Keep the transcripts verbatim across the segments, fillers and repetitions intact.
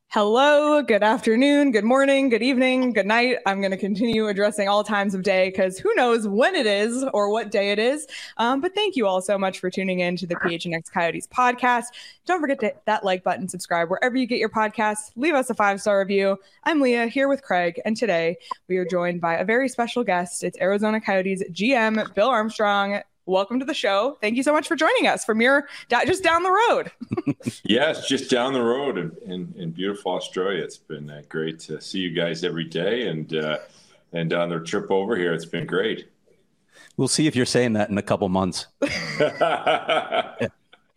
Hello, good afternoon, good morning, good evening, good night. I'm going to continue addressing all times of day because who knows when it is or what day it is. Um, but thank you all so much for tuning in to the P H N X Coyotes podcast. Don't forget to hit that like button, subscribe wherever you get your podcasts. Leave us a five-star review. I'm Leah here with Craig, and today we are joined by a very special guest. It's Arizona Coyotes G M Bill Armstrong. Welcome to the show. Thank you so much for joining us from your just down the road. Yes, just down the road in, in, in beautiful Australia. It's been uh, great to see you guys every day, and uh, and on their trip over here, it's been great. We'll see if you're saying that in a couple months. Well,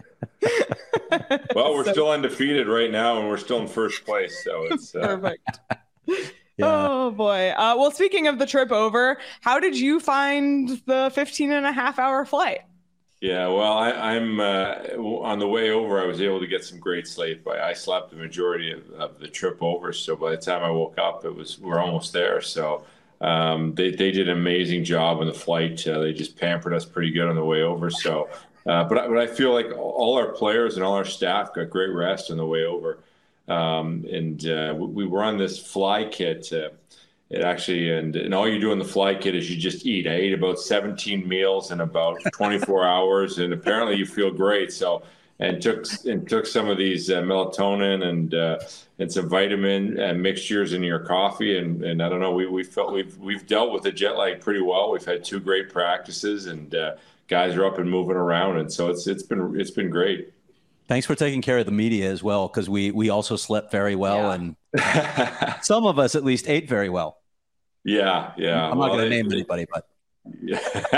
we're so, still undefeated right now, and we're still in first place. So it's uh... perfect. Yeah. Oh, boy. Uh, well, speaking of the trip over, how did you find the fifteen and a half hour flight? Yeah, well, I, I'm uh, on the way over. I was able to get some great sleep. I, I slept the majority of, of the trip over. So by the time I woke up, it was we're almost there. So um, they, they did an amazing job on the flight. Uh, they just pampered us pretty good on the way over. So, uh, but, I, but I feel like all our players and all our staff got great rest on the way over. Um, and uh, we were on this fly kit. Uh, it actually, and, and all you do on the fly kit is you just eat. I ate about seventeen meals in about twenty-four hours, and apparently you feel great. So, and took and took some of these uh, melatonin and uh, and some vitamin uh, mixtures in your coffee, and, and I don't know. We we felt we've we've dealt with the jet lag pretty well. We've had two great practices, and uh, guys are up and moving around, and so it's it's been it's been great. Thanks for taking care of the media as well, because we we also slept very well, yeah. And some of us at least ate very well. Yeah, yeah. I'm well, not going to name it, anybody, but yeah.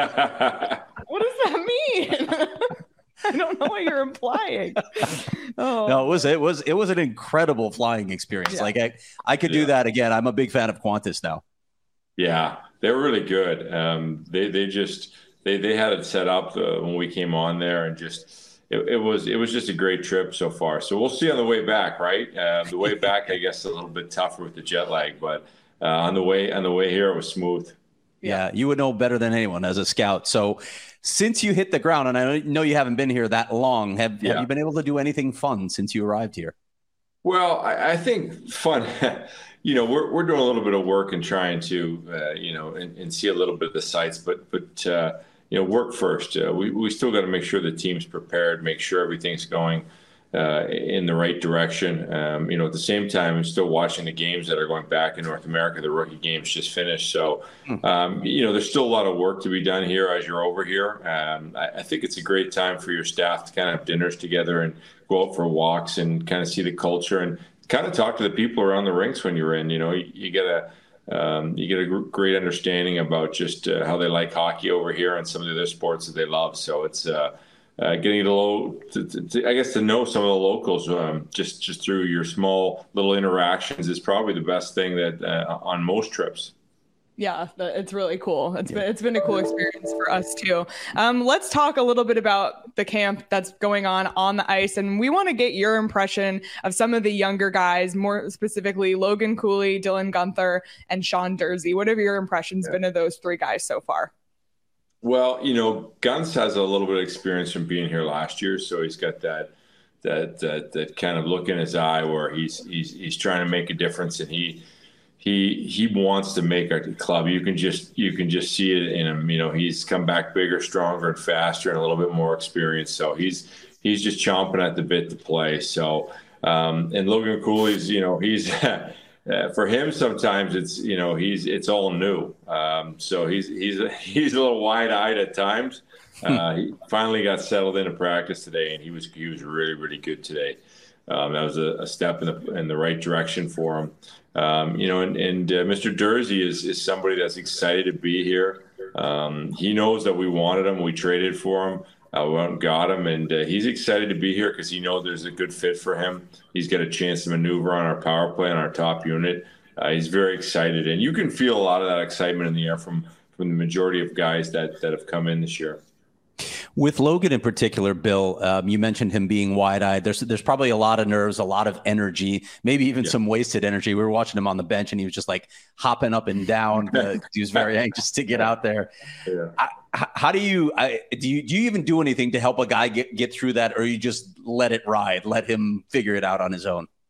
What does that mean? I don't know what you're implying. Oh. No, it was it was it was an incredible flying experience. Yeah. Like I, I could do yeah. that again. I'm a big fan of Qantas now. Yeah, they were really good. Um, they they just they they had it set up uh, when we came on there, and just. It, it was it was just a great trip so far. So we'll see on the way back, right? Uh, the way back, I guess, a little bit tougher with the jet lag, but uh, on the way on the way here, it was smooth. Yeah, you would know better than anyone as a scout. So since you hit the ground, and I know you haven't been here that long, have, yeah. have you been able to do anything fun since you arrived here? Well, I, I think fun. You know, we're we're doing a little bit of work and trying to, uh, you know, and, and see a little bit of the sites, but but. Uh, You know, work first. Uh, we we still got to make sure the team's prepared, make sure everything's going uh, in the right direction. Um, you know, at the same time, I'm still watching the games that are going back in North America. The rookie games just finished, so um, you know, there's still a lot of work to be done here as you're over here. Um, I, I think it's a great time for your staff to kind of have dinners together and go out for walks and kind of see the culture and kind of talk to the people around the rinks when you're in. You know, you, you get a Um, you get a gr- great understanding about just uh, how they like hockey over here and some of the other sports that they love. So it's uh, uh, getting to, low, to, to, to, I guess, to know some of the locals um, just just through your small little interactions is probably the best thing that uh, on most trips. Yeah, it's really cool. It's yeah. been it's been a cool experience for us too. Um, let's talk a little bit about the camp that's going on on the ice, and we want to get your impression of some of the younger guys, more specifically Logan Cooley, Dylan Guenther, and Sean Durzi. What have your impressions yeah. been of those three guys so far? Well, you know, Guns has a little bit of experience from being here last year, so he's got that that that, that kind of look in his eye where he's he's he's trying to make a difference, and he. He he wants to make a club. You can just you can just see it in him. You know, he's come back bigger, stronger, and faster, and a little bit more experience. So he's he's just chomping at the bit to play. So um, and Logan Cooley's, you know, he's uh, for him sometimes it's you know he's it's all new. Um, so he's he's he's a little wide eyed at times. Uh, he finally got settled into practice today, and he was he was really really good today. Um, that was a, a step in the in the right direction for him. Um, you know, and, and uh, Mister Durzi is, is somebody that's excited to be here. Um, he knows that we wanted him. We traded for him. Uh, we went and got him. And uh, he's excited to be here because he knows there's a good fit for him. He's got a chance to maneuver on our power play on our top unit. Uh, he's very excited. And you can feel a lot of that excitement in the air from, from the majority of guys that, that have come in this year. With Logan in particular, Bill, um, you mentioned him being wide-eyed. There's there's probably a lot of nerves, a lot of energy, maybe even yeah. some wasted energy. We were watching him on the bench, and he was just like hopping up and down. Uh, he was very anxious to get out there. Yeah. I, how do you I, do you do you even do anything to help a guy get get through that, or you just let it ride, let him figure it out on his own?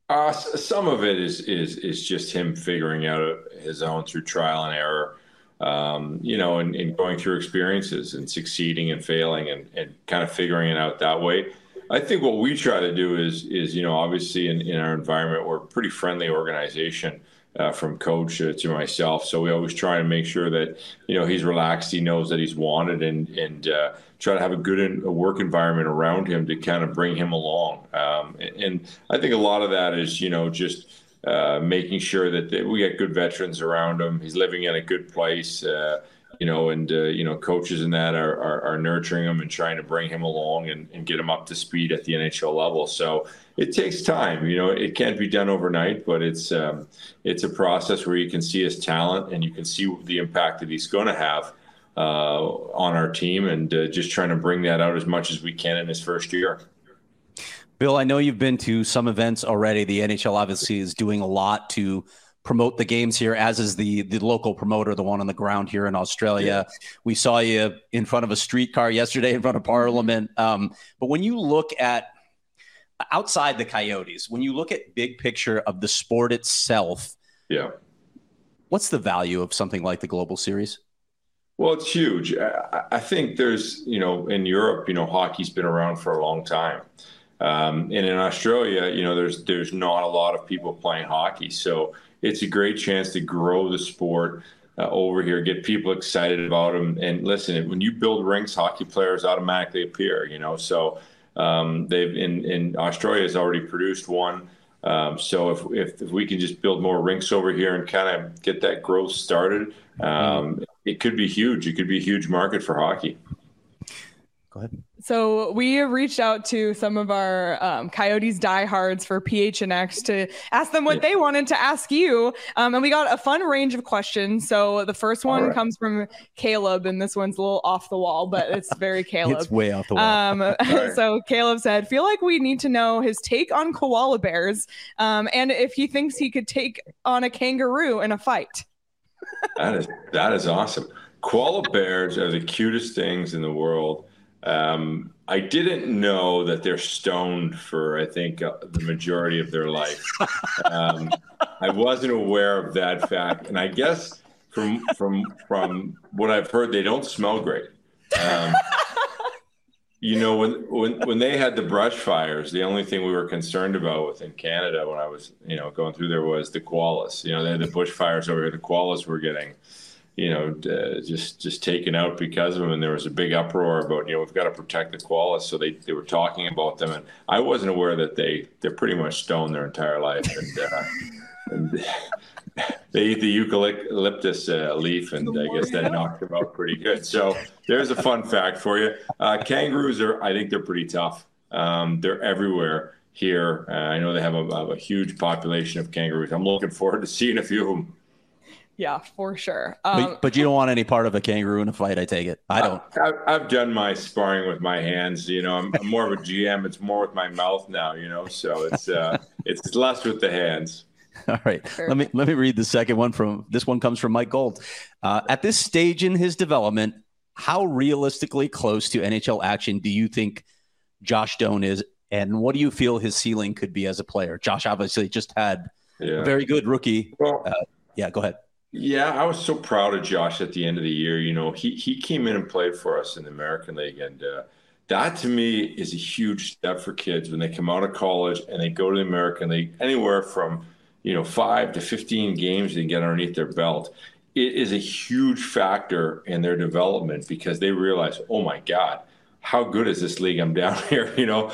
Uh, some of it is is is just him figuring out his own through trial and error, um, you know, and, and going through experiences and succeeding and failing and, and kind of figuring it out that way. I think what we try to do is is you know obviously in, in our environment we're a pretty friendly organization. Uh, from coach uh, to myself. So we always try to make sure that, you know, he's relaxed, he knows that he's wanted, and and uh, try to have a good in, a work environment around him to kind of bring him along. Um, and, and I think a lot of that is, you know, just uh, making sure that they, we get good veterans around him. He's living in a good place, uh, you know, and, uh, you know, coaches and that are, are, are nurturing him and trying to bring him along and, and get him up to speed at the N H L level. So it takes time, you know, it can't be done overnight, but it's um, it's a process where you can see his talent and you can see the impact that he's going to have uh, on our team, and uh, just trying to bring that out as much as we can in his first year. Bill, I know you've been to some events already. The N H L obviously is doing a lot to promote the games here, as is the the local promoter, the one on the ground here in Australia. Yeah. We saw you in front of a streetcar yesterday in front of Parliament. Um, but when you look at outside the Coyotes, when you look at big picture of the sport itself, yeah, what's the value of something like the Global Series? Well, it's huge. I, I think there's, you know, in Europe, you know, hockey's been around for a long time. Um, and in Australia, you know, there's there's not a lot of people playing hockey. So it's a great chance to grow the sport uh, over here, get people excited about them. And listen, when you build rinks, hockey players automatically appear, you know. So um, they've in, in Australia has already produced one. Um, so if, if if we can just build more rinks over here and kind of get that growth started, um, it could be huge. It could be a huge market for hockey. Go ahead. So we have reached out to some of our um, Coyotes diehards for P H N X to ask them what yeah. they wanted to ask you. Um, and we got a fun range of questions. So the first one right. comes from Caleb, and this one's a little off the wall, but it's very Caleb. It's way off the wall. Um, right. So Caleb said, feel like we need to know his take on koala bears, um, and if he thinks he could take on a kangaroo in a fight. That is, that is awesome. Koala bears are the cutest things in the world. Um, I didn't know that they're stoned for, I think, uh, the majority of their life. Um, I wasn't aware of that fact. And I guess from from from what I've heard, they don't smell great. Um, you know, when, when, when they had the brush fires, the only thing we were concerned about within Canada when I was, you know, going through there was the koalas. You know, they had the bush fires over here. The koalas were getting, you know, uh, just just taken out because of them. And there was a big uproar about, you know, we've got to protect the koalas. So they, they were talking about them. And I wasn't aware that they, they're pretty much stoned their entire life. And, uh, and they eat the eucalyptus uh, leaf, and I guess that knocked them out pretty good. So there's a fun fact for you. Uh, kangaroos are, I think they're pretty tough. Um, they're everywhere here. Uh, I know they have a, a huge population of kangaroos. I'm looking forward to seeing a few of them. Yeah, for sure. Um, but, but you don't want any part of a kangaroo in a fight, I take it. I don't. I've, I've done my sparring with my hands. You know, I'm, I'm more of a G M. It's more with my mouth now, you know, so it's uh, it's less with the hands. All right. Sure. Let me let me read the second one. From this one comes from Mike Gold. Uh, at this stage in his development, how realistically close to N H L action do you think Josh Doan is, and what do you feel his ceiling could be as a player? Josh obviously just had yeah. a very good rookie. Well, uh, yeah, go ahead. Yeah, I was so proud of Josh at the end of the year. You know, he he came in and played for us in the American League, and uh, that to me is a huge step for kids when they come out of college and they go to the American League. Anywhere from, you know, five to fifteen games they get underneath their belt. It is a huge factor in their development because they realize, oh my God, how good is this league? I'm down here, you know,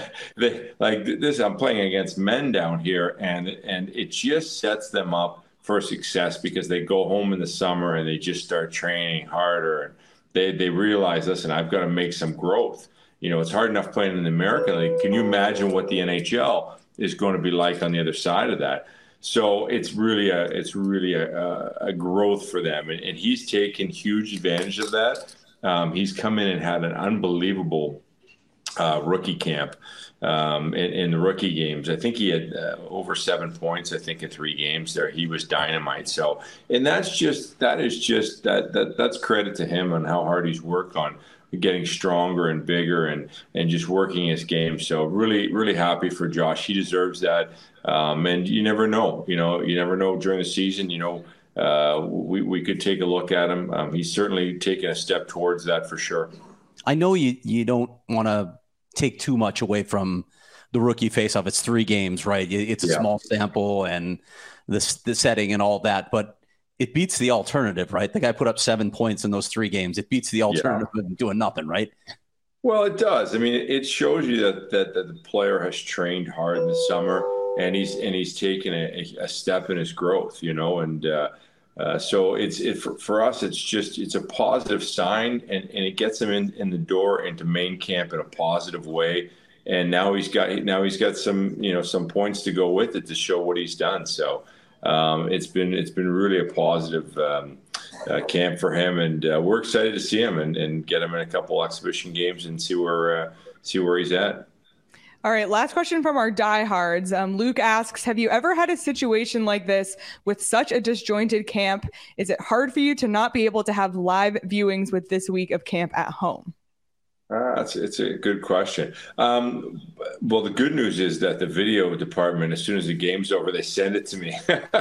they, like this, I'm playing against men down here, and and it just sets them up for success because they go home in the summer and they just start training harder, and they they realize, listen, I've got to make some growth. You know, it's hard enough playing in the American League. Can you imagine what the N H L is going to be like on the other side of that? So it's really a it's really a, a growth for them, and, and he's taken huge advantage of that. Um, he's come in and had an unbelievable uh, rookie camp. Um, in, in the rookie games, I think he had uh, over seven points. I think in three games there, he was dynamite. So, and that's just that is just that that that's credit to him on how hard he's worked on getting stronger and bigger and and just working his game. So really, really happy for Josh. He deserves that. Um, and you never know, you know, you never know during the season, you know, uh, we, we could take a look at him. Um, he's certainly taken a step towards that for sure. I know you, you don't want to take too much away from the rookie faceoff. It's three games, right? It's a yeah. small sample and the, the setting and all that, but it beats the alternative, right? The guy put up seven points in those three games. It beats the alternative yeah. of doing nothing, right? Well, it does. I mean, it shows you that, that, that the player has trained hard in the summer and he's, and he's taken a, a step in his growth, you know, and, uh, Uh, so it's it for, for us. It's just it's a positive sign, and, and it gets him in, in the door into main camp in a positive way. And now he's got now he's got some you know some points to go with it to show what he's done. So um, it's been it's been really a positive um, uh, camp for him, and uh, we're excited to see him and, and get him in a couple exhibition games and see where uh, see where he's at. All right, last question from our diehards. Um, Luke asks, have you ever had a situation like this with such a disjointed camp? Is it hard for you to not be able to have live viewings with this week of camp at home? Ah, it's, it's a good question. Um, well, the good news is that the video department, as soon as the game's over, they send it to me.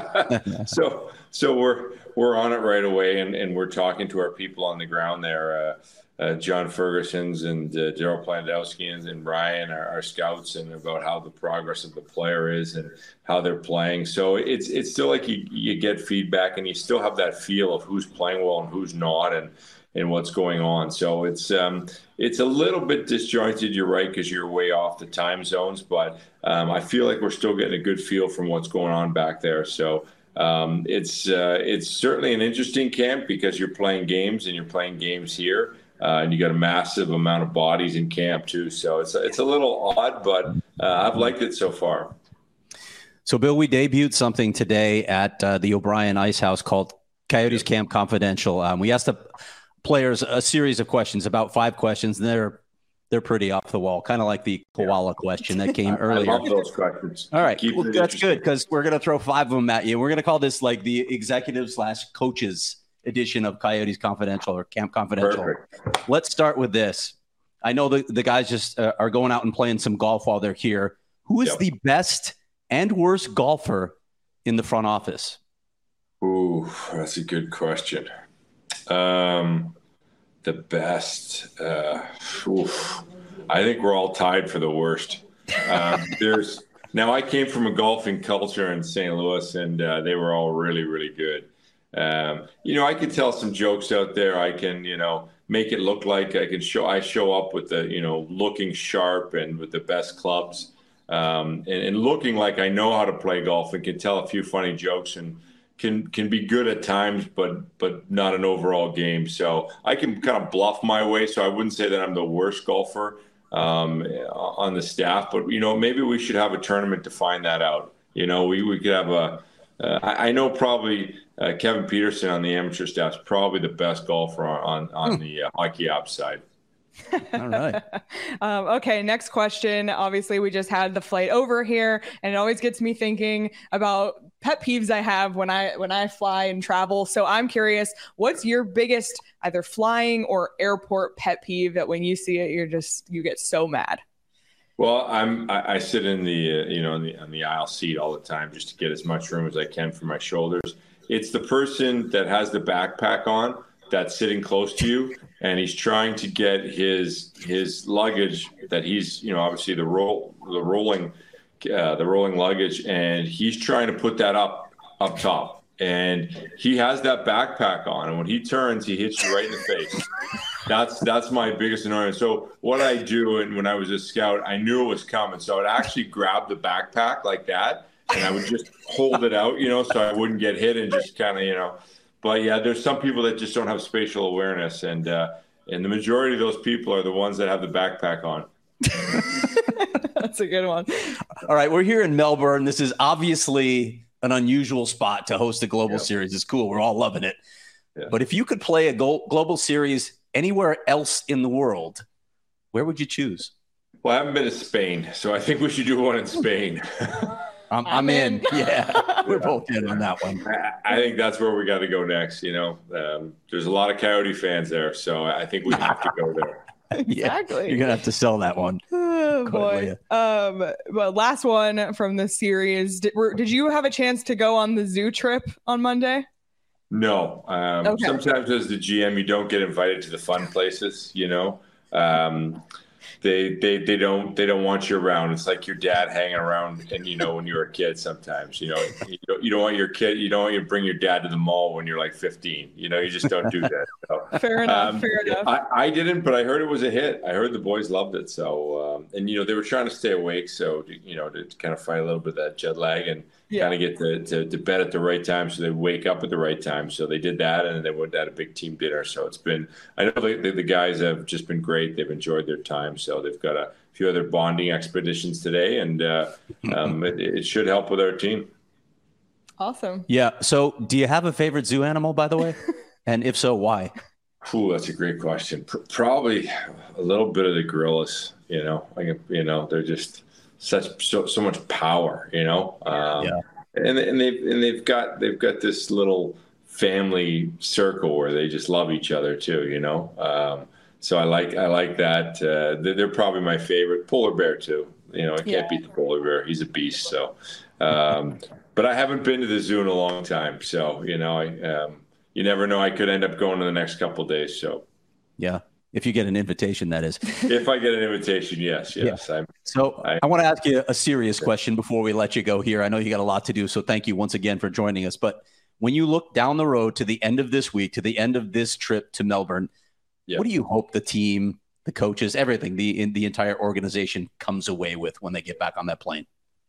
so so we're we're on it right away, and, and we're talking to our people on the ground there. Uh, Uh, John Ferguson's and uh, Daryl Plandowski and, and Ryan, our, our scouts, and about how the progress of the player is and how they're playing. So it's it's still like you, you get feedback and you still have that feel of who's playing well and who's not and and what's going on. So it's um, it's a little bit disjointed, you're right, because you're way off the time zones. But um, I feel like we're still getting a good feel from what's going on back there. So um, it's uh, it's certainly an interesting camp because you're playing games and you're playing games here. Uh, and you got a massive amount of bodies in camp too, so it's it's a little odd, but uh, I've liked it so far. So, Bill, we debuted something today at uh, the O'Brien Ice House called Coyotes Camp Confidential. Um, we asked the players a series of questions, about five questions, and they're they're pretty off the wall, kind of like the koala question that came earlier. I love those questions. All right, well, that's good because we're going to throw five of them at you. We're going to call this like the executive slash coaches edition of Coyotes Confidential or Camp Confidential. Perfect. Let's start with this. I know the, the guys just uh, are going out and playing some golf while they're here. Who is yep. the best and worst golfer in the front office? Ooh, that's a good question. Um, the best. Uh, oof. I think we're all tied for the worst. Um, there's now I came from a golfing culture in Saint Louis, and uh, they were all really, really good. Um, you know, I can tell some jokes out there. I can, you know, make it look like I can show, I show up with the, you know, looking sharp and with the best clubs, um, and, and looking like I know how to play golf and can tell a few funny jokes and can, can be good at times, but, but not an overall game. So I can kind of bluff my way. So I wouldn't say that I'm the worst golfer, um, on the staff, but, you know, maybe we should have a tournament to find that out. You know, we, we could have a, uh, I, I know probably, Uh, Kevin Peterson on the amateur staff is probably the best golfer on on hmm. the uh, hockey ops side. All right. um, okay, next question. Obviously, we just had the flight over here, and it always gets me thinking about pet peeves I have when I when I fly and travel. So I'm curious, what's your biggest either flying or airport pet peeve that when you see it, you're just you get so mad? Well, I'm I, I sit in the uh, you know in the on the aisle seat all the time just to get as much room as I can for my shoulders. It's the person that has the backpack on that's sitting close to you, and he's trying to get his his luggage that he's you know obviously the roll the rolling uh, the rolling luggage, and he's trying to put that up up top, and he has that backpack on, and when he turns, he hits you right in the face. That's that's my biggest annoyance. So what I do, and when I was a scout, I knew it was coming, so I'd actually grab the backpack like that. And I would just hold it out, you know, so I wouldn't get hit and just kind of, you know. But, yeah, there's some people that just don't have spatial awareness. And uh, and the majority of those people are the ones that have the backpack on. That's a good one. All right, we're here in Melbourne. This is obviously an unusual spot to host a global yep. series. It's cool. We're all loving it. Yeah. But if you could play a go- global series anywhere else in the world, where would you choose? Well, I haven't been to Spain, so I think we should do one in Spain. I'm, I'm, I'm in. in. Yeah, we're both in on that one. I, I think that's where we got to go next. You know, um, there's a lot of Coyote fans there, so I think we have to go there. Exactly. Yeah, you're gonna have to sell that one. Oh boy. Um, well, last one from the series. Did, were, did you have a chance to go on the zoo trip on Monday? No. Um, okay. Sometimes as the G M, you don't get invited to the fun places. You know. Um, They, they they don't they don't want you around. It's like your dad hanging around, and you know when you were a kid. Sometimes you know you don't, you don't want your kid. You don't want you to bring your dad to the mall when you're like fifteen. You know you just don't do that. So, fair enough. Um, fair enough. I, I didn't, but I heard it was a hit. I heard the boys loved it. So um, and you know they were trying to stay awake, so to, you know to kind of fight a little bit of that jet lag and yeah. kind of get to, to to bed at the right time, so they wake up at the right time. So they did that, and then they went to a big team dinner. So it's been. I know the, the, the guys have just been great. They've enjoyed their time. So they've got a few other bonding expeditions today, and uh, um, it, it should help with our team. Awesome. Yeah. So do you have a favorite zoo animal, by the way? And if so, why? Ooh, that's a great question. P- probably a little bit of the gorillas, you know, like, you know, they're just such, so, so much power, you know? Um, yeah. And, and they've, and they've got, they've got this little family circle where they just love each other too, you know? Um, So I like I like that. Uh, they're, they're probably my favorite. Polar bear too. You know, I can't yeah. beat the polar bear. He's a beast. So, um, but I haven't been to the zoo in a long time. So you know, I um, you never know. I could end up going in the next couple of days. So, yeah, if you get an invitation, that is. If I get an invitation, yes, yes. Yeah. So I, I want to ask you a serious question before we let you go here. I know you got a lot to do, so thank you once again for joining us. But when you look down the road to the end of this week, to the end of this trip to Melbourne. Yep. What do you hope the team, the coaches, everything, the in the entire organization comes away with when they get back on that plane?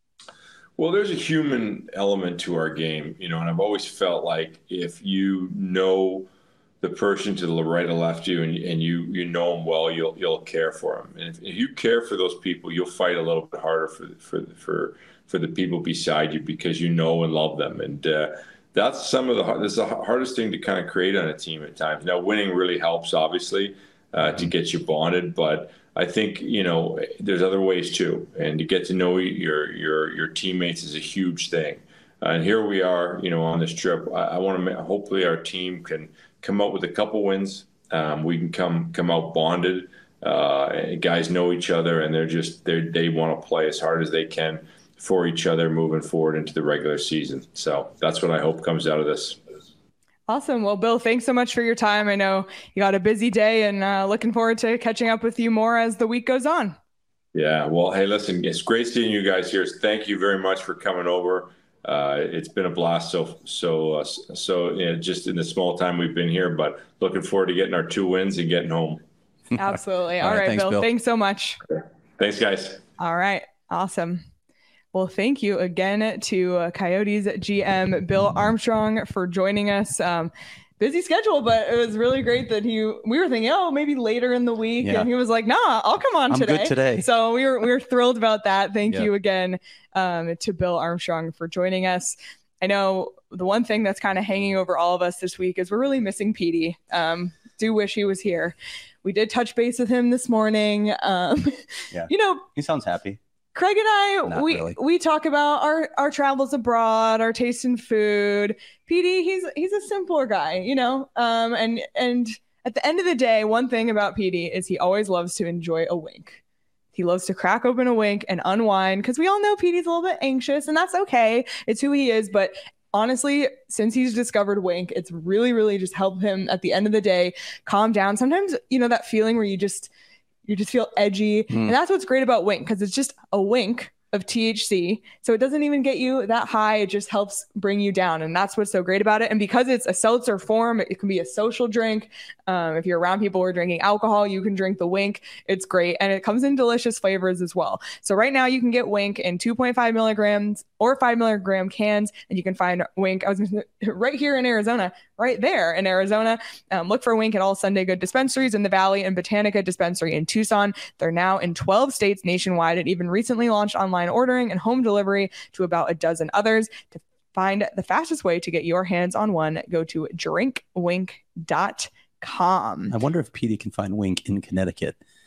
Well, there's a human element to our game, you know, and I've always felt like if you know the person to the right or left you, and, and you you know them well, you'll you'll care for them. And if, if you care for those people, you'll fight a little bit harder for for for for the people beside you because you know and love them. And uh, that's some of the this is the hardest thing to kind of create on a team at times. Now, winning really helps, obviously, uh, to get you bonded, but I think you know there's other ways too, and to get to know your your your teammates is a huge thing. Uh, and here we are, you know, on this trip. I, I want to hopefully our team can come out with a couple wins. Um, we can come come out bonded. Uh, and guys know each other, and they're just they they want to play as hard as they can for each other moving forward into the regular season. So that's what I hope comes out of this. Awesome. Well, Bill, thanks so much for your time. I know you got a busy day, and uh, looking forward to catching up with you more as the week goes on. Yeah. Well, hey, listen, it's great seeing you guys here. Thank you very much for coming over. Uh, it's been a blast. So, so, uh, so you know, just in the small time we've been here, but looking forward to getting our two wins and getting home. Absolutely. All, All right, right thanks, Bill. Bill. Thanks so much. Okay. Thanks, guys. All right. Awesome. Well, thank you again to uh, Coyotes G M Bill Armstrong for joining us. Um, busy schedule, but it was really great that he, we were thinking, oh, maybe later in the week. Yeah. And he was like, nah, I'll come on I'm today. Good today. So we were, we were thrilled about that. Thank yeah. you again um, to Bill Armstrong for joining us. I know the one thing that's kind of hanging over all of us this week is we're really missing Petey. Um, do wish he was here. We did touch base with him this morning. Um, yeah. You know, he sounds happy. Craig and I, Not we really. we talk about our, our travels abroad, our taste in food. Petey, he's he's a simpler guy, you know. Um, and and at the end of the day, one thing about Petey is he always loves to enjoy a wink. He loves to crack open a wink and unwind because we all know Petey's a little bit anxious, and that's okay. It's who he is. But honestly, since he's discovered Wink, it's really, really just helped him at the end of the day calm down. Sometimes, you know, that feeling where you just you just feel edgy. Mm. And that's what's great about Wink, because it's just a wink of T H C. So it doesn't even get you that high. It just helps bring you down. And that's what's so great about it. And because it's a seltzer form, it can be a social drink. Um, if you're around people who are drinking alcohol, you can drink the Wink. It's great. And it comes in delicious flavors as well. So right now you can get Wink in two point five milligrams or five milligram cans. And you can find Wink, I was right here in Arizona, right there in Arizona. Um, look for Wink at all Sunday Good dispensaries in the Valley and Botanica dispensary in Tucson. They're now in twelve states nationwide and even recently launched online ordering and home delivery to about a dozen others. To find the fastest way to get your hands on one, go to drink wink dot com. I wonder if Petey can find Wink in Connecticut.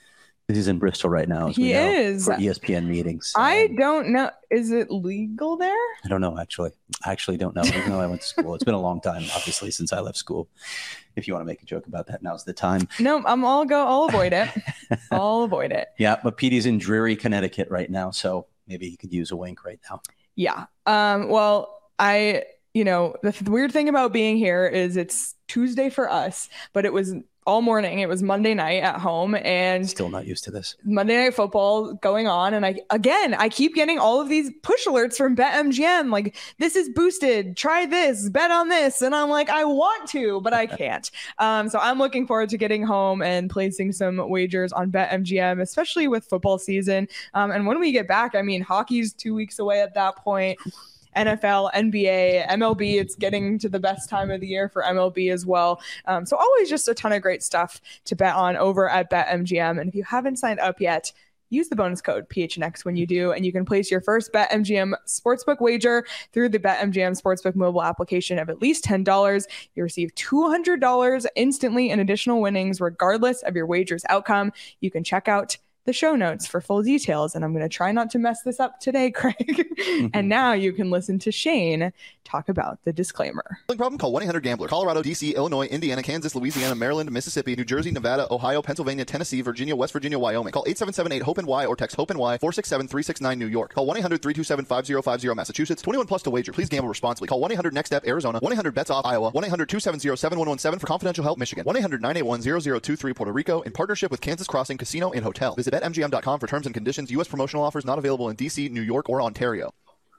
He's in Bristol right now. As he we know, is for E S P N meetings. I Um, don't know. Is it legal there? I don't know, actually. I actually don't know. Even though I went to school. It's been a long time, obviously, since I left school. If you want to make a joke about that, now's the time. No, I'm all go. I'll avoid it. I'll avoid it. Yeah, but Petey's in dreary Connecticut right now, so maybe he could use a wink right now. Yeah. Um, well, I, you know, the, the weird thing about being here is it's Tuesday for us, but it was all morning. It was Monday night at home, and Still not used to this. Monday Night Football going on. And I, again, I keep getting all of these push alerts from BetMGM. Like, this is boosted. Try this, bet on this. And I'm like, I want to, but I can't. um, so I'm looking forward to getting home and placing some wagers on BetMGM, especially with football season. Um, and when we get back, I mean, hockey's two weeks away at that point. N F L, N B A, M L B, it's getting to the best time of the year for M L B as well. Um, so always just a ton of great stuff to bet on over at BetMGM. And if you haven't signed up yet, use the bonus code P H N X when you do, and you can place your first BetMGM sportsbook wager through the BetMGM sportsbook mobile application of at least ten dollars. You receive two hundred dollars instantly in additional winnings, regardless of your wager's outcome. You can check out the show notes for full details, and I'm going to try not to mess this up today, Craig. Mm-hmm. And now you can listen to Shane talk about the disclaimer. Problem? Call one eight hundred gambler. Colorado, D C, Illinois, Indiana, Kansas, Louisiana, Maryland, Mississippi, New Jersey, Nevada, Ohio, Pennsylvania, Tennessee, Virginia, West Virginia, Wyoming. Call eight seven seven eight hope N Y or text HOPE-N Y four six seven three six nine New York. Call one eight hundred three two seven five zero five zero Massachusetts. twenty-one plus to wager. Please gamble responsibly. Call one eight hundred next step Arizona. one eight hundred bets off Iowa. one eight hundred two seven zero seven one one seven for confidential help Michigan. one eight hundred nine eight one zero zero two three Puerto Rico in partnership with Kansas Crossing Casino and Hotel. Visit bet M G M dot com for terms and conditions. U S promotional offers not available in D C, New York, or Ontario.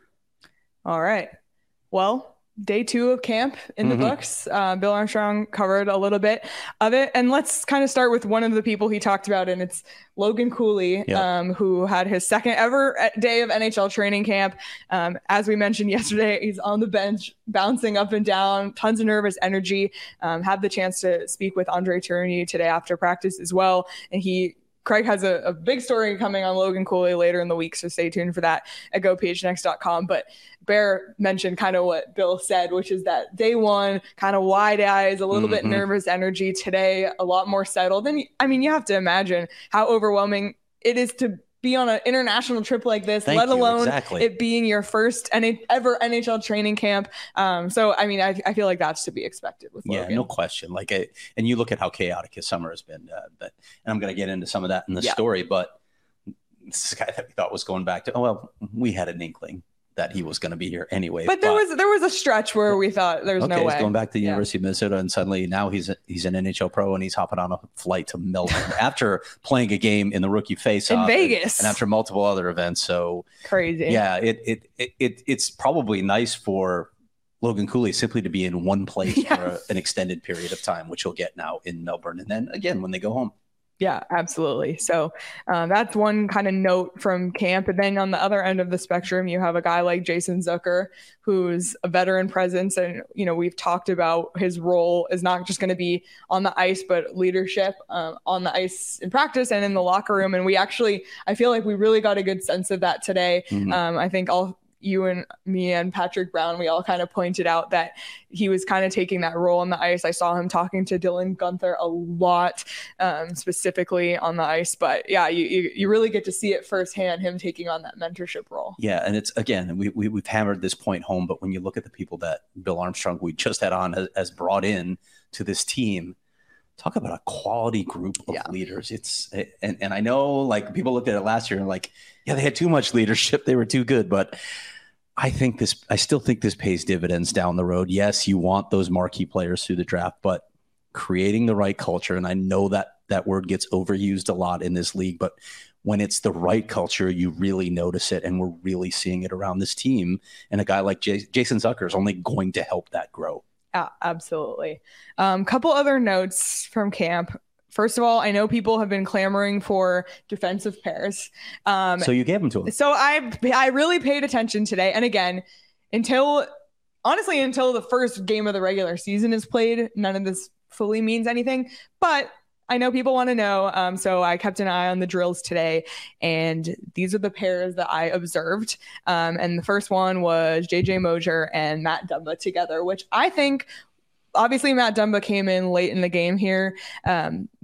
All right. Well, day two of camp in the mm-hmm. books. Uh, Bill Armstrong covered a little bit of it. And let's kind of start with one of the people he talked about, and it's Logan Cooley, yep. um, who had his second ever day of N H L training camp. Um, as we mentioned yesterday, he's on the bench, bouncing up and down, tons of nervous energy. Um, had the chance to speak with Andre Tourigny today after practice as well. And he Craig has a, a big story coming on Logan Cooley later in the week, so stay tuned for that at go P H N X dot com. But Bear mentioned kind of what Bill said, which is that day one, kind of wide eyes, a little mm-hmm. bit nervous energy. Today, a lot more settled. And I mean, you have to imagine how overwhelming it is to be on an international trip like this, Thank let you. alone Exactly. it being your first N- ever N H L training camp. Um, so, I mean, I, I feel like that's to be expected with Logan. Yeah, no question. Like, it, and you look at how chaotic his summer has been. Uh, but, and I'm going to get into some of that in the yeah. story. But this guy that we thought was going back to, oh well, we had an inkling that he was going to be here anyway. But there but, was there was a stretch where we thought there's okay, no way. He's going back to the yeah. University of Minnesota, and suddenly now he's a, he's an N H L pro, and he's hopping on a flight to Melbourne after playing a game in the rookie face-off in Vegas, and, and after multiple other events. So crazy. Yeah, it it it, it it's probably nice for Logan Cooley simply to be in one place yeah. for a, an extended period of time, which he'll get now in Melbourne, and then again when they go home. Yeah, absolutely. So um, that's one kind of note from camp. And then on the other end of the spectrum, you have a guy like Jason Zucker, who's a veteran presence. And, you know, we've talked about his role is not just going to be on the ice, but leadership um, on the ice in practice and in the locker room. And we actually, I feel like we really got a good sense of that today. Mm-hmm. Um, I think all you and me and Patrick Brown, we all kind of pointed out that he was kind of taking that role on the ice. I saw him talking to Dylan Guenther a lot, um, specifically on the ice. But yeah, you, you you really get to see it firsthand, him taking on that mentorship role. Yeah, and it's, again, we, we, we've hammered this point home, but when you look at the people that Bill Armstrong, we just had on, has, has brought in to this team, talk about a quality group of yeah. leaders. It's and, and I know, like, people looked at it last year and like, yeah, they had too much leadership. They were too good, but I think this, I still think this pays dividends down the road. Yes, you want those marquee players through the draft, but creating the right culture, and I know that that word gets overused a lot in this league, but when it's the right culture, you really notice it, and we're really seeing it around this team. And a guy like J- Jason Zucker is only going to help that grow. Yeah, absolutely. Um, couple other notes from camp. First of all, I know people have been clamoring for defensive pairs. Um, so you gave them to them. So I I really paid attention today. And again, until honestly, until the first game of the regular season is played, none of this fully means anything. But I know people want to know. Um, so I kept an eye on the drills today, and these are the pairs that I observed. Um, and the first one was J J Moser and Matt Dumba together, which I think, obviously Matt Dumba came in late in the game here, um, but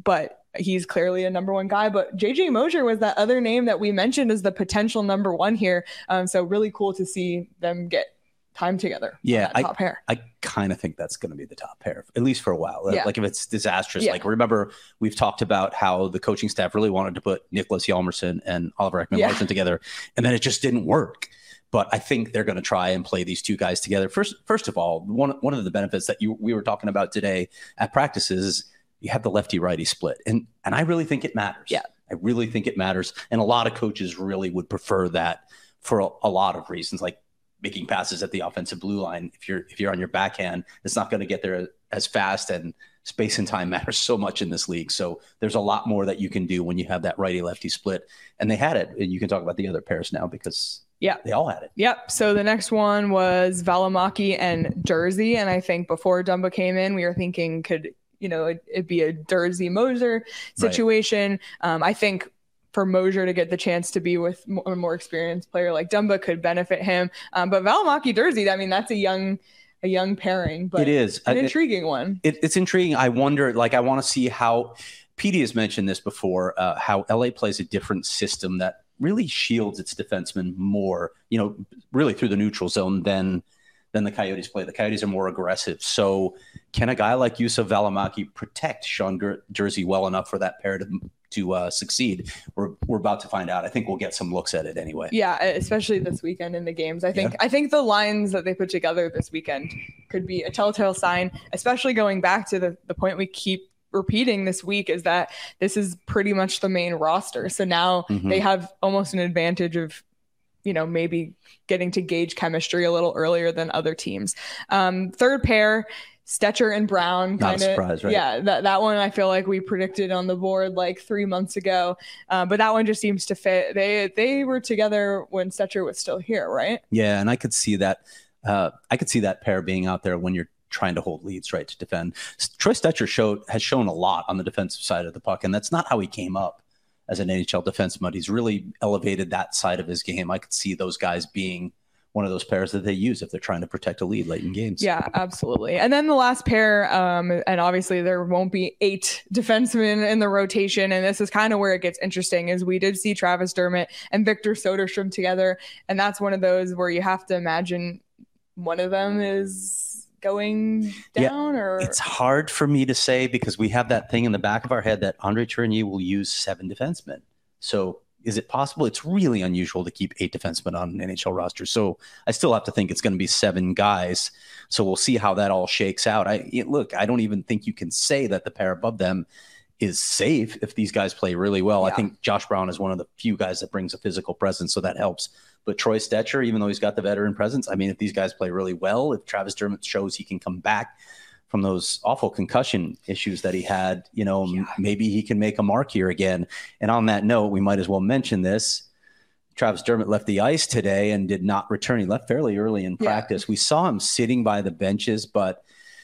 he's clearly a number one guy, but J J Mosier was that other name that we mentioned as the potential number one here. Um, so really cool to see them get time together. Yeah, I, top pair. I kind of think that's going to be the top pair, at least for a while. Yeah. Like if it's disastrous, yeah. like remember we've talked about how the coaching staff really wanted to put Nicholas Hjalmarsson and Oliver Ekman-Larsson yeah. together, and then it just didn't work. But I think they're going to try and play these two guys together. First, first of all, one one of the benefits that you we were talking about today at practices is you have the lefty-righty split, and and I really think it matters. Yeah, I really think it matters, and a lot of coaches really would prefer that for a, a lot of reasons, like making passes at the offensive blue line. If you're if you're on your backhand, it's not going to get there as fast, and space and time matters so much in this league. So there's a lot more that you can do when you have that righty-lefty split, and they had it. And you can talk about the other pairs now because. Yeah, they all had it. Yep. So the next one was Valimaki and Jersey. And I think before Dumba came in, we were thinking could, you know, it, it'd be a Jersey Mosier situation. Right. Um, I think for Mosier to get the chance to be with a more experienced player like Dumba could benefit him. Um, but Valimaki Jersey, I mean, that's a young a young pairing, but it is an I, intriguing one. It, it's intriguing. I wonder, like, I want to see how Petey has mentioned this before, uh, how L A plays a different system that really shields its defensemen more, you know, really through the neutral zone than than the Coyotes play. The Coyotes are more aggressive. So can a guy like Juuso Valimaki protect Sean Ger- Jersey well enough for that pair to to uh, succeed? We're we're about to find out. I think we'll get some looks at it anyway. Yeah, especially this weekend in the games. I think yeah. I think the lines that they put together this weekend could be a telltale sign, especially going back to the, the point we keep repeating this week is that this is pretty much the main roster. So now mm-hmm. they have almost an advantage of, you know, maybe getting to gauge chemistry a little earlier than other teams. Um, third pair, Stecher and Brown. Not kinda, a surprise, right? Yeah, that, that one I feel like we predicted on the board like three months ago. Uh, but that one just seems to fit. They they were together when Stecher was still here, right? Yeah, and I could see that. Uh, I could see that pair being out there when you're trying to hold leads, right, to defend. Troy Stecher showed has shown a lot on the defensive side of the puck, and that's not how he came up as an N H L defenseman. He's really elevated that side of his game. I could see those guys being one of those pairs that they use if they're trying to protect a lead late in games. Yeah, absolutely. And then the last pair, um, and obviously there won't be eight defensemen in the rotation, and this is kind of where it gets interesting, is we did see Travis Dermott and Victor Soderstrom together, and that's one of those where you have to imagine one of them is going down. Yeah, or it's hard for me to say because we have that thing in the back of our head that Andre Tourigny will use seven defensemen. So is it possible? It's really unusual to keep eight defensemen on an N H L roster. So I still have to think it's going to be seven guys. So we'll see how that all shakes out. I look, I don't even think you can say that the pair above them is safe if these guys play really well. Yeah. I think Josh Brown is one of the few guys that brings a physical presence, so that helps. But Troy Stecher, even though he's got the veteran presence, I mean, if these guys play really well, if Travis Dermott shows he can come back from those awful concussion issues that he had, you know, yeah. m- maybe he can make a mark here again. And on that note, we might as well mention this. Travis Dermott left the ice today and did not return. He left fairly early in practice. Yeah. We saw him sitting by the benches, but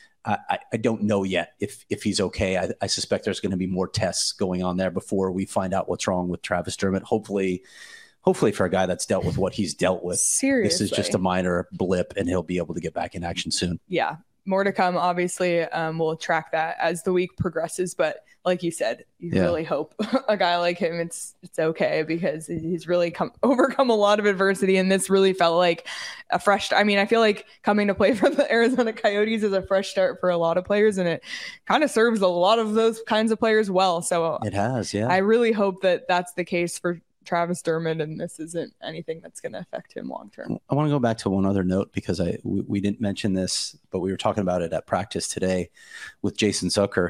I, I don't know yet if if he's okay. I, I suspect there's going to be more tests going on there before we find out what's wrong with Travis Dermott. Hopefully, hopefully for a guy that's dealt with what he's dealt with, seriously, this is just a minor blip and he'll be able to get back in action soon. Yeah. More to come, obviously. Um, we'll track that as the week progresses. But like you said, you yeah. really hope a guy like him, it's it's okay because he's really come overcome a lot of adversity. And this really felt like a fresh I mean, I feel like coming to play for the Arizona Coyotes is a fresh start for a lot of players. And it kind of serves a lot of those kinds of players well. So it has, yeah. I really hope that that's the case for Travis Dermott, and this isn't anything that's going to affect him long term. I want to go back to one other note because I we, we didn't mention this, but we were talking about it at practice today with Jason Zucker.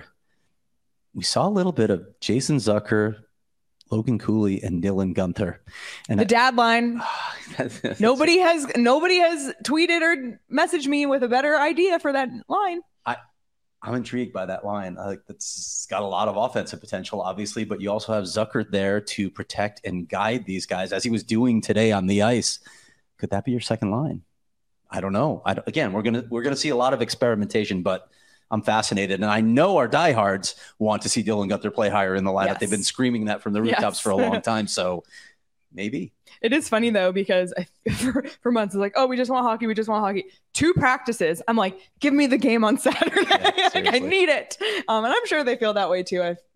We saw a little bit of Jason Zucker, Logan Cooley, and Dylan Guenther. And the dad line. nobody has nobody has tweeted or messaged me with a better idea for that line. I. I'm intrigued by that line. I think that's got a lot of offensive potential, obviously, but you also have Zucker there to protect and guide these guys as he was doing today on the ice. Could that be your second line? I don't know. I don't, again, we're gonna we're gonna see a lot of experimentation, but I'm fascinated, and I know our diehards want to see Dylan Guenther play higher in the lineup. Yes. They've been screaming that from the rooftops yes. for a long time, so maybe. It is funny, though, because I, for, for months, it's like, oh, we just want hockey. We just want hockey. Two practices. I'm like, give me the game on Saturday. Yeah, like, I need it. Um, and I'm sure they feel that way, too. I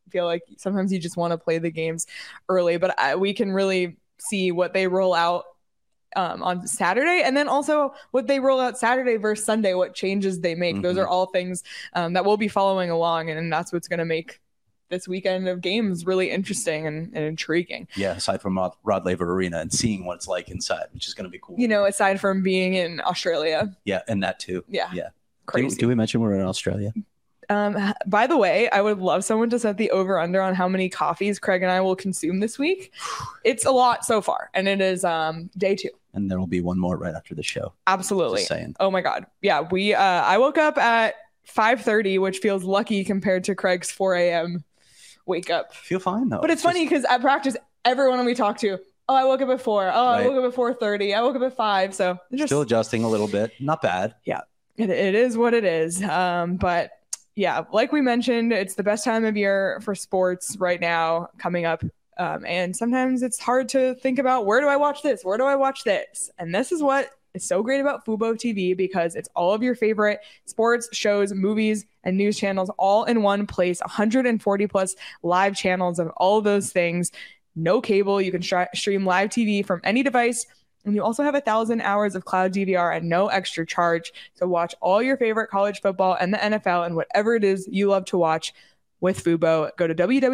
feel like sometimes you just want to play the games early, but I, we can really see what they roll out um, on Saturday, and then also what they roll out Saturday versus Sunday, what changes they make. Mm-hmm. Those are all things um, that we'll be following along, and that's what's going to make this weekend of games really interesting and, and intriguing. Yeah, aside from Rod, Rod Laver Arena and seeing what it's like inside, which is going to be cool. You know, aside from being in Australia. Yeah, and that too. Yeah. Yeah. Crazy. Do, do we mention we're in Australia? Um, by the way, I would love someone to set the over under on how many coffees Craig and I will consume this week. It's a lot so far, and it is um, day two. And there will be one more right after the show. Absolutely. Just saying. Oh my God. Yeah, we. Uh, I woke up at five thirty, which feels lucky compared to Craig's four a.m. wake up. Feel fine though. But it's, it's funny because just... at practice, everyone we talk to, oh, I woke up at four. Oh, right. I woke up at four thirty. I woke up at five. So just still adjusting a little bit. Not bad. Yeah, it, it is what it is. Um, but yeah, like we mentioned, it's the best time of year for sports right now coming up. Um, and sometimes it's hard to think about, where do I watch this? Where do I watch this? And this is what is so great about Fubo T V, because it's all of your favorite sports, shows, movies, and news channels all in one place. one hundred forty plus live channels of all of those things. No cable. You can sh- stream live T V from any device. And you also have a thousand hours of cloud D V R at no extra charge. So watch all your favorite college football and the N F L and whatever it is you love to watch with Fubo. Go to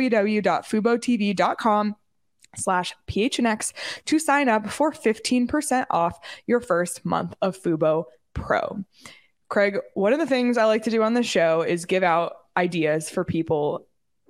www.fubotv.com slash PHNX to sign up for fifteen percent off your first month of Fubo Pro. Craig, one of the things I like to do on the show is give out ideas for people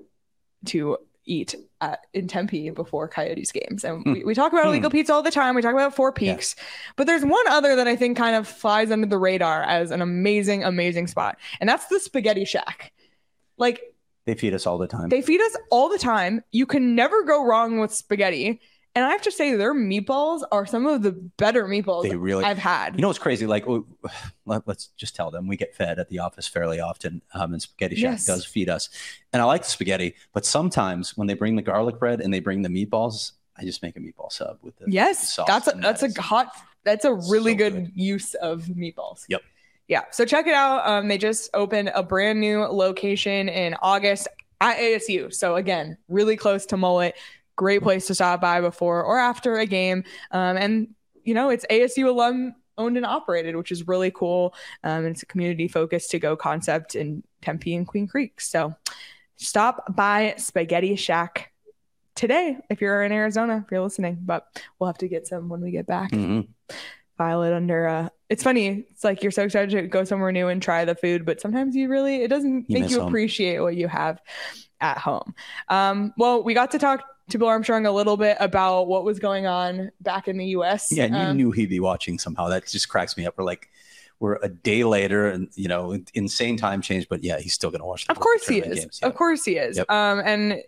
to eat at, in Tempe before Coyotes games. And mm. we, we talk about illegal mm. pizza all the time. We talk about Four Peaks, yeah. but there's one other that I think kind of flies under the radar as an amazing, amazing spot. And that's the Spaghetti Shack. Like, they feed us all the time. They feed us all the time. You can never go wrong with spaghetti. And I have to say, their meatballs are some of the better meatballs they really, I've had. You know what's crazy? Like, let, let's just tell them we get fed at the office fairly often, um, and Spaghetti Shack yes. does feed us. And I like the spaghetti, but sometimes when they bring the garlic bread and they bring the meatballs, I just make a meatball sub with the yes. sauce. That's a, that's that a hot. That's a really so good, good use of meatballs. Yep. Yeah. So check it out. Um, they just opened a brand new location in August at A S U. So again, really close to Mullet. Great place to stop by before or after a game. Um, and, you know, it's A S U alum owned and operated, which is really cool. Um, and it's a community focused to go concept in Tempe and Queen Creek. So stop by Spaghetti Shack today if you're in Arizona, if you're listening. But we'll have to get some when we get back. Mm-hmm. File it under. Uh, it's funny. It's like you're so excited to go somewhere new and try the food, but sometimes you really, it doesn't you make you home. appreciate what you have at home. Um, well, we got to talk to Bill Armstrong a little bit about what was going on back in the U S. Yeah, and you um, knew he'd be watching somehow. That just cracks me up. We're like, we're a day later, and you know, insane time change. But yeah, he's still going to watch. The of course he is. Games. Yeah. Of course he is. Yep. Um, and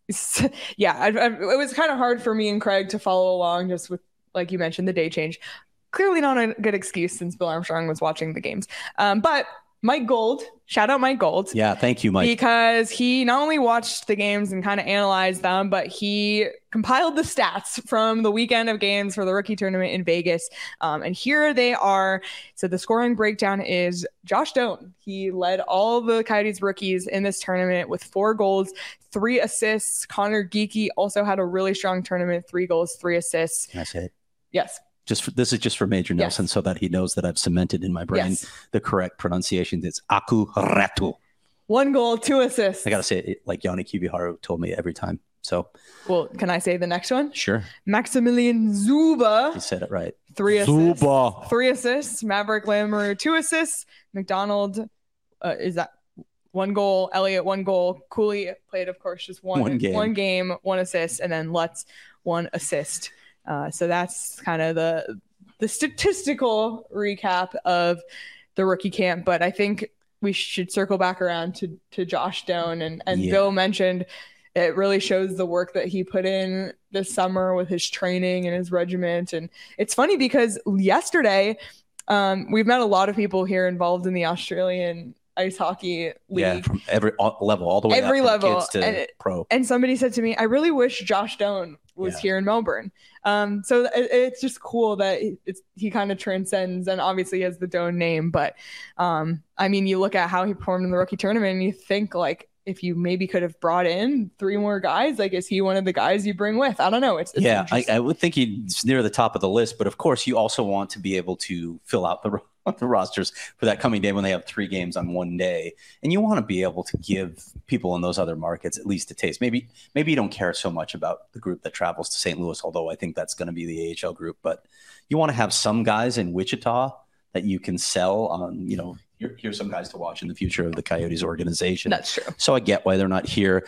yeah, I, I, it was kind of hard for me and Craig to follow along, just with, like you mentioned, the day change. Clearly not a good excuse since Bill Armstrong was watching the games. Um, but Mike Gold, shout out Mike Gold. Yeah, thank you, Mike. Because he not only watched the games and kind of analyzed them, but he compiled the stats from the weekend of games for the rookie tournament in Vegas. Um, and here they are. So the scoring breakdown is Josh Doan. He led all the Coyotes rookies in this tournament with four goals, three assists. Connor Geekie also had a really strong tournament, three goals, three assists. Can I say it? Yes. Just for, this is just for Major Nelson, yes. so that he knows that I've cemented in my brain yes. the correct pronunciation. It's Aku Ratu. One goal, two assists. I gotta say it like Yanni Kiviharu told me every time. So, well, can I say the next one? Sure. Maximilian Zuba. You said it right. Three assists. Zuba. Three assists. Maverick Lamoureux, two assists. McDonald, uh, is that one goal? Elliott, one goal. Cooley played, of course, just one one game, one, game, one assist, and then Lutz, one assist. Uh, so that's kind of the the statistical recap of the rookie camp. But I think we should circle back around to to Josh Doan. And, and yeah. Bill mentioned it really shows the work that he put in this summer with his training and his regiment. And it's funny because yesterday um, we've met a lot of people here involved in the Australian ice hockey league. Yeah, from every all, level, all the way every up from level kids to and, pro. And somebody said to me, I really wish Josh Doan was yeah. here in Melbourne. Um, so it, it's just cool that it's, he kind of transcends, and obviously he has the Doan name. But um, I mean, you look at how he performed in the rookie tournament and you think like if you maybe could have brought in three more guys, like, is he one of the guys you bring with? I don't know. It's, it's yeah, I, I would think he's near the top of the list, but of course you also want to be able to fill out the, the rosters for that coming day when they have three games on one day. And you want to be able to give people in those other markets at least a taste. Maybe, maybe you don't care so much about the group that travels to Saint Louis, although I think that's going to be the A H L group, but you want to have some guys in Wichita that you can sell on, you know, Here, here's some guys to watch in the future of the Coyotes organization. That's true. So I get why they're not here.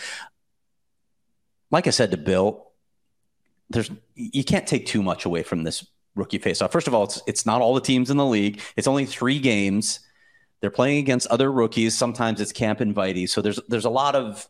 Like I said to Bill, there's you can't take too much away from this rookie faceoff. First of all, it's it's not all the teams in the league. It's only three games. They're playing against other rookies. Sometimes it's camp invitees. So there's there's a lot of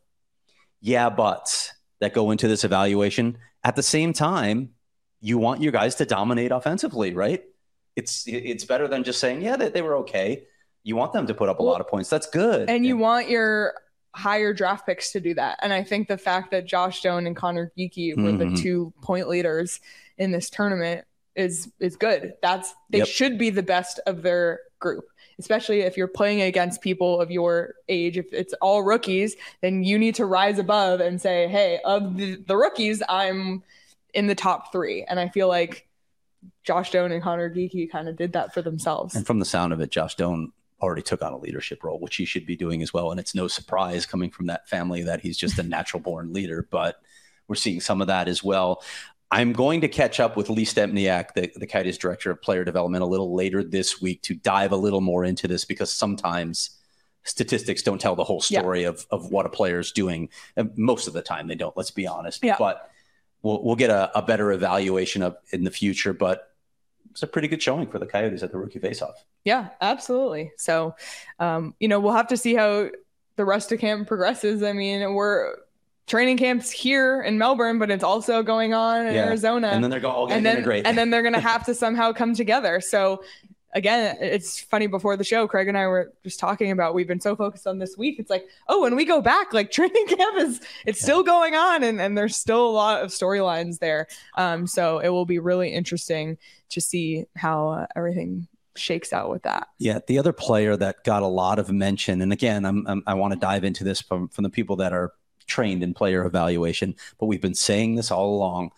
yeah buts that go into this evaluation. At the same time, you want your guys to dominate offensively, right? It's it's better than just saying, yeah, they, they were okay. You want them to put up a well, lot of points. That's good. And you yeah. want your higher draft picks to do that. And I think the fact that Josh Doan and Connor Geekie were mm-hmm. the two point leaders in this tournament is is good. That's they yep. should be the best of their group, especially if you're playing against people of your age. If it's all rookies, then you need to rise above and say, hey, of the, the rookies, I'm in the top three. And I feel like Josh Doan and Connor Geekie kind of did that for themselves. And from the sound of it, Josh Doan already took on a leadership role, which he should be doing as well. And it's no surprise coming from that family that he's just a natural born leader, but we're seeing some of that as well. I'm going to catch up with Lee Stempniak, the, the Coyotes director of player development, a little later this week to dive a little more into this, because sometimes statistics don't tell the whole story yeah. of, of what a player is doing. And most of the time they don't, let's be honest, yeah. but we'll, we'll get a, a better evaluation of in the future, but it's a pretty good showing for the Coyotes at the rookie faceoff. Yeah, absolutely. So, um, you know, we'll have to see how the rest of camp progresses. I mean, we're training camps here in Melbourne, but it's also going on in yeah. Arizona. And then they're all going to integrate. And then they're going to have to somehow come together. So, again, it's funny, before the show, Craig and I were just talking about, we've been so focused on this week. It's like, oh, when we go back, like training camp is, it's yeah. still going on, and, and there's still a lot of storylines there. Um, so it will be really interesting to see how uh, everything shakes out with that. Yeah. The other player that got a lot of mention, and again, I'm, I'm I want to dive into this from, from the people that are trained in player evaluation, but we've been saying this all along.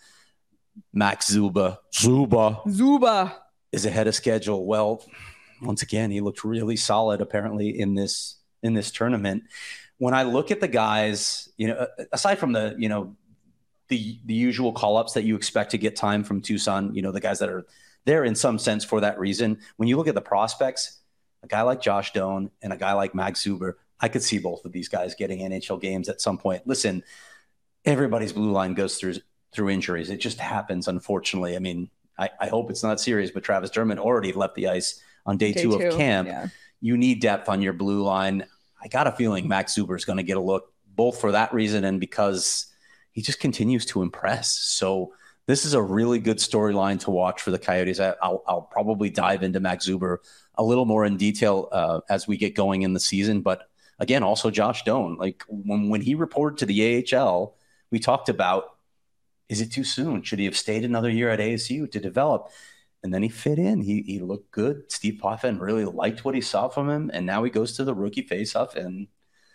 Max Zuba. Zuba. Zuba. is ahead of schedule. Well, once again, he looked really solid apparently in this in this tournament. When I look at the guys, you know, aside from the, you know, the the usual call-ups that you expect to get time from Tucson, you know, the guys that are there in some sense for that reason, when you look at the prospects, a guy like Josh Doan and a guy like Max Zuber, I could see both of these guys getting N H L games at some point. Listen, everybody's blue line goes through through injuries. It just happens, unfortunately. I mean, I, I hope it's not serious, but Travis Dermott already left the ice on day, day two, two of camp. Yeah. You need depth on your blue line. I got a feeling Max Zuber is going to get a look, both for that reason and because he just continues to impress. So this is a really good storyline to watch for the Coyotes. I, I'll, I'll probably dive into Max Zuber a little more in detail uh, as we get going in the season. But again, also Josh Doan, like when, when he reported to the A H L, we talked about, is it too soon? Should he have stayed another year at A S U to develop? And then he fit in. He he looked good. Steve Potvin really liked what he saw from him. And now he goes to the rookie faceoff and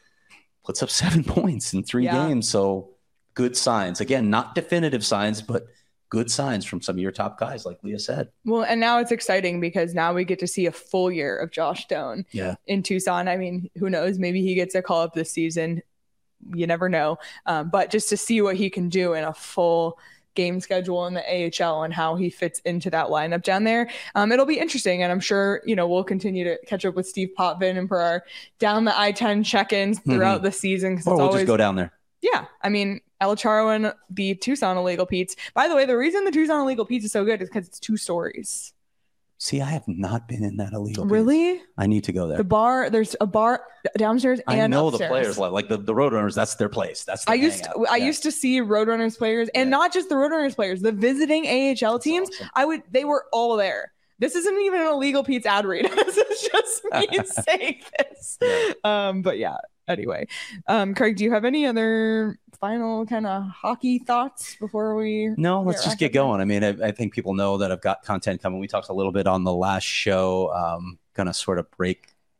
puts up seven points in three yeah. games. So good signs. Again, not definitive signs, but good signs from some of your top guys, like Leah said. Well, and now it's exciting because now we get to see a full year of Josh Doan yeah. in Tucson. I mean, who knows? Maybe he gets a call up this season. You never know. Um, but just to see what he can do in a full game schedule in the A H L and how he fits into that lineup down there, um, it'll be interesting. And I'm sure, you know, we'll continue to catch up with Steve Potvin and for our down the I ten check-ins throughout mm-hmm. the season. Or it's we'll always, just go down there. Yeah. I mean, El Charo and the Tucson Illegal Pete's. By the way, the reason the Tucson Illegal Pete's is so good is because it's two stories. See, I have not been in that illegal. Really? Pete's. I need to go there. The bar, there's a bar downstairs and I know upstairs. The players like the, the Roadrunners. That's their place. That's their I used to, I yeah. used to see Roadrunners players, and yeah. not just the Roadrunners players, the visiting A H L that's teams. Awesome. I would they were all there. This isn't even an Illegal Pete's ad read. This is just me saying this. Yeah. Um, but yeah. Anyway, um, Craig, do you have any other final kind of hockey thoughts before we? No, let's just get going. I mean, I, I think people know that I've got content coming. We talked a little bit on the last show. Um, gonna sort of break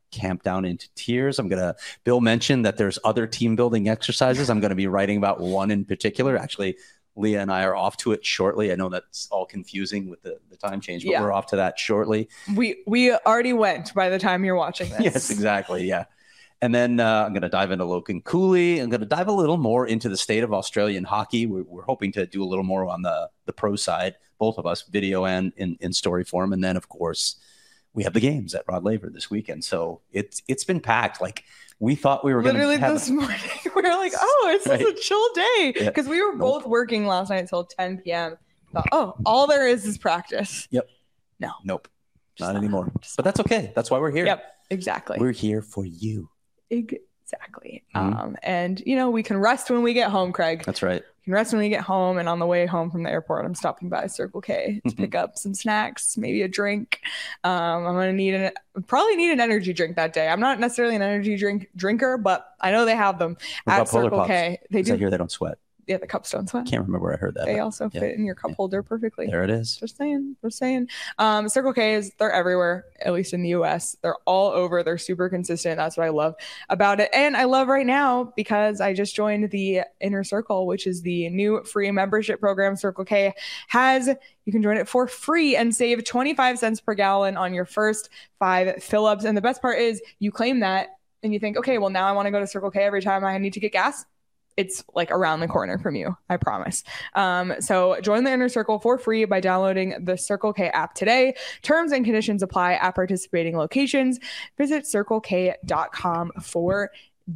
camp down into tears. I'm going to, Bill mentioned that there's other team building exercises. I'm going to be writing about one in particular. Actually, Leah and I are off to it shortly. I know that's all confusing with the, the time change, but yeah. we're off to that shortly. We we already went by the time you're watching this. Yes, exactly. Yeah. And then uh, I'm going to dive into Logan Cooley. I'm going to dive a little more into the state of Australian hockey. We're, we're hoping to do a little more on the, the pro side, both of us, video and in, in story form. And then, of course, we have the games at Rod Laver this weekend. So it's it's been packed. Like, we thought we were going to literally have this morning. We were like, oh, it's right. a chill day. Because yeah. we were both nope. working last night until ten p.m. Thought, oh, all there is is practice. Yep. No. Nope. Not, not anymore. But that's okay. That's why we're here. Yep. Exactly. We're here for you. Exactly. Mm-hmm. Um, and, you know, we can rest when we get home, Craig. That's right. We can rest when we get home. And on the way home from the airport, I'm stopping by Circle K to pick up some snacks, maybe a drink. Um, I'm going to need an, probably need an energy drink that day. I'm not necessarily an energy drink drinker, but I know they have them what at Circle K. They do. I hear they don't sweat. Yeah, the cups don't sweat. Can't remember where I heard that. They also yeah. fit in your cup yeah. holder perfectly. There it is. Just saying. Just saying. Um, Circle K is, they're everywhere, at least in the U S. They're all over. They're super consistent. That's what I love about it. And I love right now because I just joined the Inner Circle, which is the new free membership program Circle K has. You can join it for free and save twenty-five cents per gallon on your first five fill-ups. And the best part is you claim that and you think, okay, well, now I want to go to Circle K every time I need to get gas. It's like around the corner from you, I promise. Um, so join the Inner Circle for free by downloading the Circle K app today. Terms and conditions apply at participating locations. Visit circle k dot com for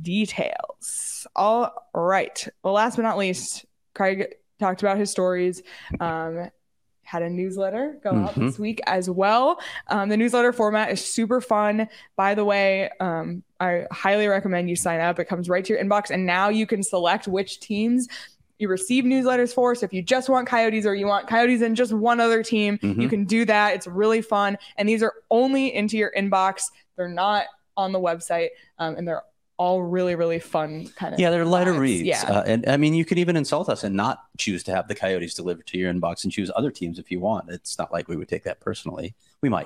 details. All right. Well, last but not least, Craig talked about his stories. Um, had a newsletter go out mm-hmm. this week as well. Um, the newsletter format is super fun. By the way, um, I highly recommend you sign up. It comes right to your inbox. And now you can select which teams you receive newsletters for. So if you just want Coyotes or you want Coyotes and just one other team, mm-hmm. you can do that. It's really fun. And these are only into your inbox. They're not on the website. Um, and they're all really, really fun kind of. Yeah, they're lighter vibes. reads. Yeah. Uh, and I mean, you could even insult us and not choose to have the Coyotes delivered to your inbox and choose other teams if you want. It's not like we would take that personally. We might.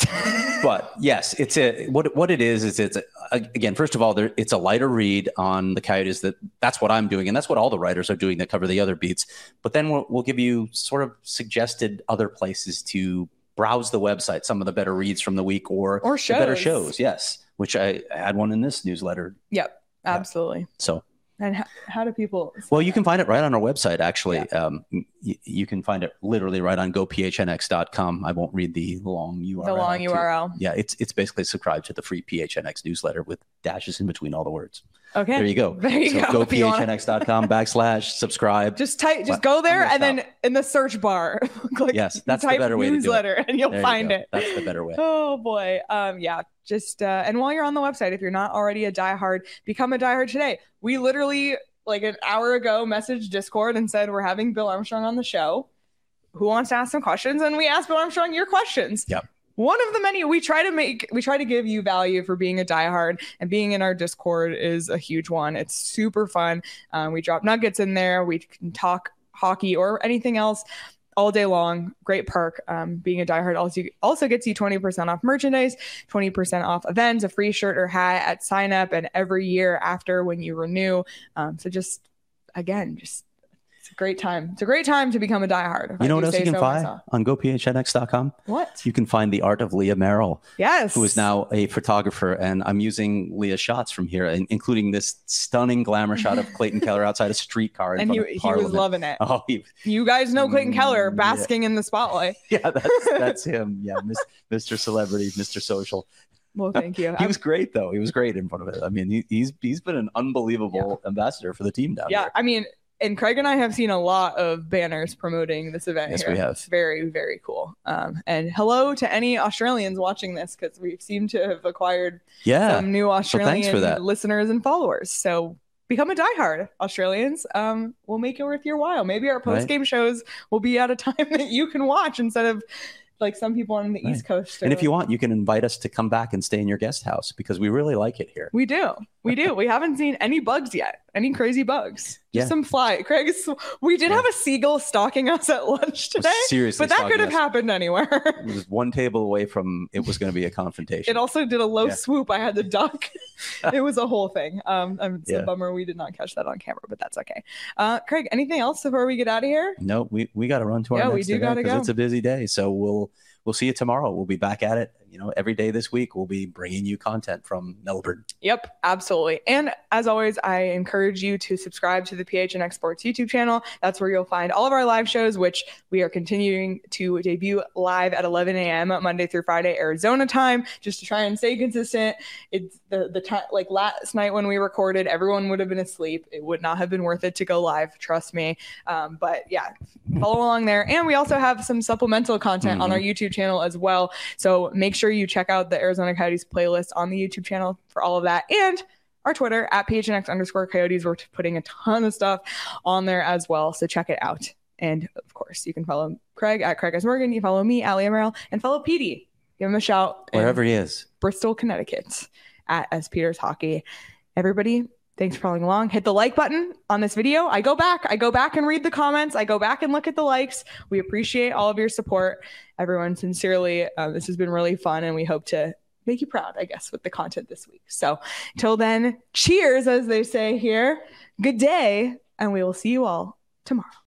But yes, it's a what what it is is it's a, again, first of all, there it's a lighter read on the Coyotes. That that's what I'm doing, and that's what all the writers are doing that cover the other beats. But then we'll we'll give you sort of suggested other places to browse the website, some of the better reads from the week or or shows. The better shows. Yes. Which I had one in this newsletter. Yep, absolutely. Yeah. So, and how, how do people? Well, you can find it right on our website. Actually, yeah. um, y- you can find it literally right on go p h n x dot com. I won't read the long U R L. The long U R L. To, yeah, it's it's basically subscribe to the free P H N X newsletter with dashes in between all the words. Okay. There you go. There you so go. go p h n x dot com backslash subscribe. Just type. Just go there and then in the search bar, click. Yes, that's the type better way newsletter to do it. and you'll there find you it. That's the better way. Oh boy. Um. Yeah. Just uh, and while you're on the website, if you're not already a diehard, become a diehard today. We literally like an hour ago messaged Discord and said we're having Bill Armstrong on the show. Who wants to ask some questions? And we asked Bill Armstrong your questions. Yep. One of the many we try to make, we try to give you value for being a diehard, and being in our Discord is a huge one. It's super fun. Um, we drop nuggets in there. We can talk hockey or anything else all day long. Great perk. Um, being a diehard also, also gets you twenty percent off merchandise, twenty percent off events, a free shirt or hat at sign up, and every year after when you renew. Um, so just, again, just it's a great time. It's a great time to become a diehard. You know what else you can so find myself. On go p h n x dot com? What? You can find the art of Leah Merrill. Yes. Who is now a photographer. And I'm using Leah's shots from here, including this stunning glamour shot of Clayton Keller outside a streetcar. In and front he, of he was loving it. Oh, he, you guys know Clayton mm, Keller basking yeah. in the spotlight. Yeah, that's, that's him. Yeah, Mister Celebrity, Mister Social. Well, thank you. he I'm, was great, though. He was great in front of it. I mean, he, he's he's been an unbelievable yeah. ambassador for the team down yeah, here. Yeah, I mean, and Craig and I have seen a lot of banners promoting this event. Yes, here. we have. It's very, very cool. Um, and hello to any Australians watching this, because we seem to have acquired yeah. some new Australian so thanks for that. listeners and followers. So become a diehard, Australians. Um, we'll make it worth your while. Maybe our post-game right. shows will be at a time that you can watch instead of like some people on the right. East Coast. And if you want, you can invite us to come back and stay in your guest house because we really like it here. We do. We do. We haven't seen any bugs yet. Any crazy bugs. Just Yeah. some fly. Craig, we did Yeah. have a seagull stalking us at lunch today. Seriously, but that stalking could have us. happened anywhere. It was one table away from it was going to be a confrontation. It also did a low Yeah. swoop. I had to duck. It was a whole thing. Um, um, it's Yeah. a bummer we did not catch that on camera, but that's okay. Uh, Craig, anything else before we get out of here? No, we, we got to run to our Yeah, we next do event gotta 'cause go. it's a busy day. So we'll we'll see you tomorrow. We'll be back at it. You know, every day this week we'll be bringing you content from Melbourne. Yep, absolutely. And as always, I encourage you to subscribe to the P H N X Sports YouTube channel. That's where you'll find all of our live shows, which we are continuing to debut live at eleven a.m. Monday through Friday, Arizona time, just to try and stay consistent. It's the the time, like last night when we recorded, everyone would have been asleep. It would not have been worth it to go live, trust me. Um, but yeah, follow along there. And we also have some supplemental content Mm-hmm. on our YouTube channel as well. So make sure you check out the Arizona Coyotes playlist on the YouTube channel for all of that. And our Twitter at P H N X underscore Coyotes. We're putting a ton of stuff on there as well. So check it out. And of course, you can follow Craig at Craig S. Morgan. You follow me, Allie Emerald, and follow Petey. Give him a shout. in Wherever he is. Bristol, Connecticut at S. Peters Hockey. Everybody, thanks for following along. Hit the like button on this video. I go back. I go back and read the comments. I go back and look at the likes. We appreciate all of your support. Everyone, sincerely, uh, this has been really fun, and we hope to make you proud, I guess, with the content this week. So until then, cheers, as they say here. Good day, and we will see you all tomorrow.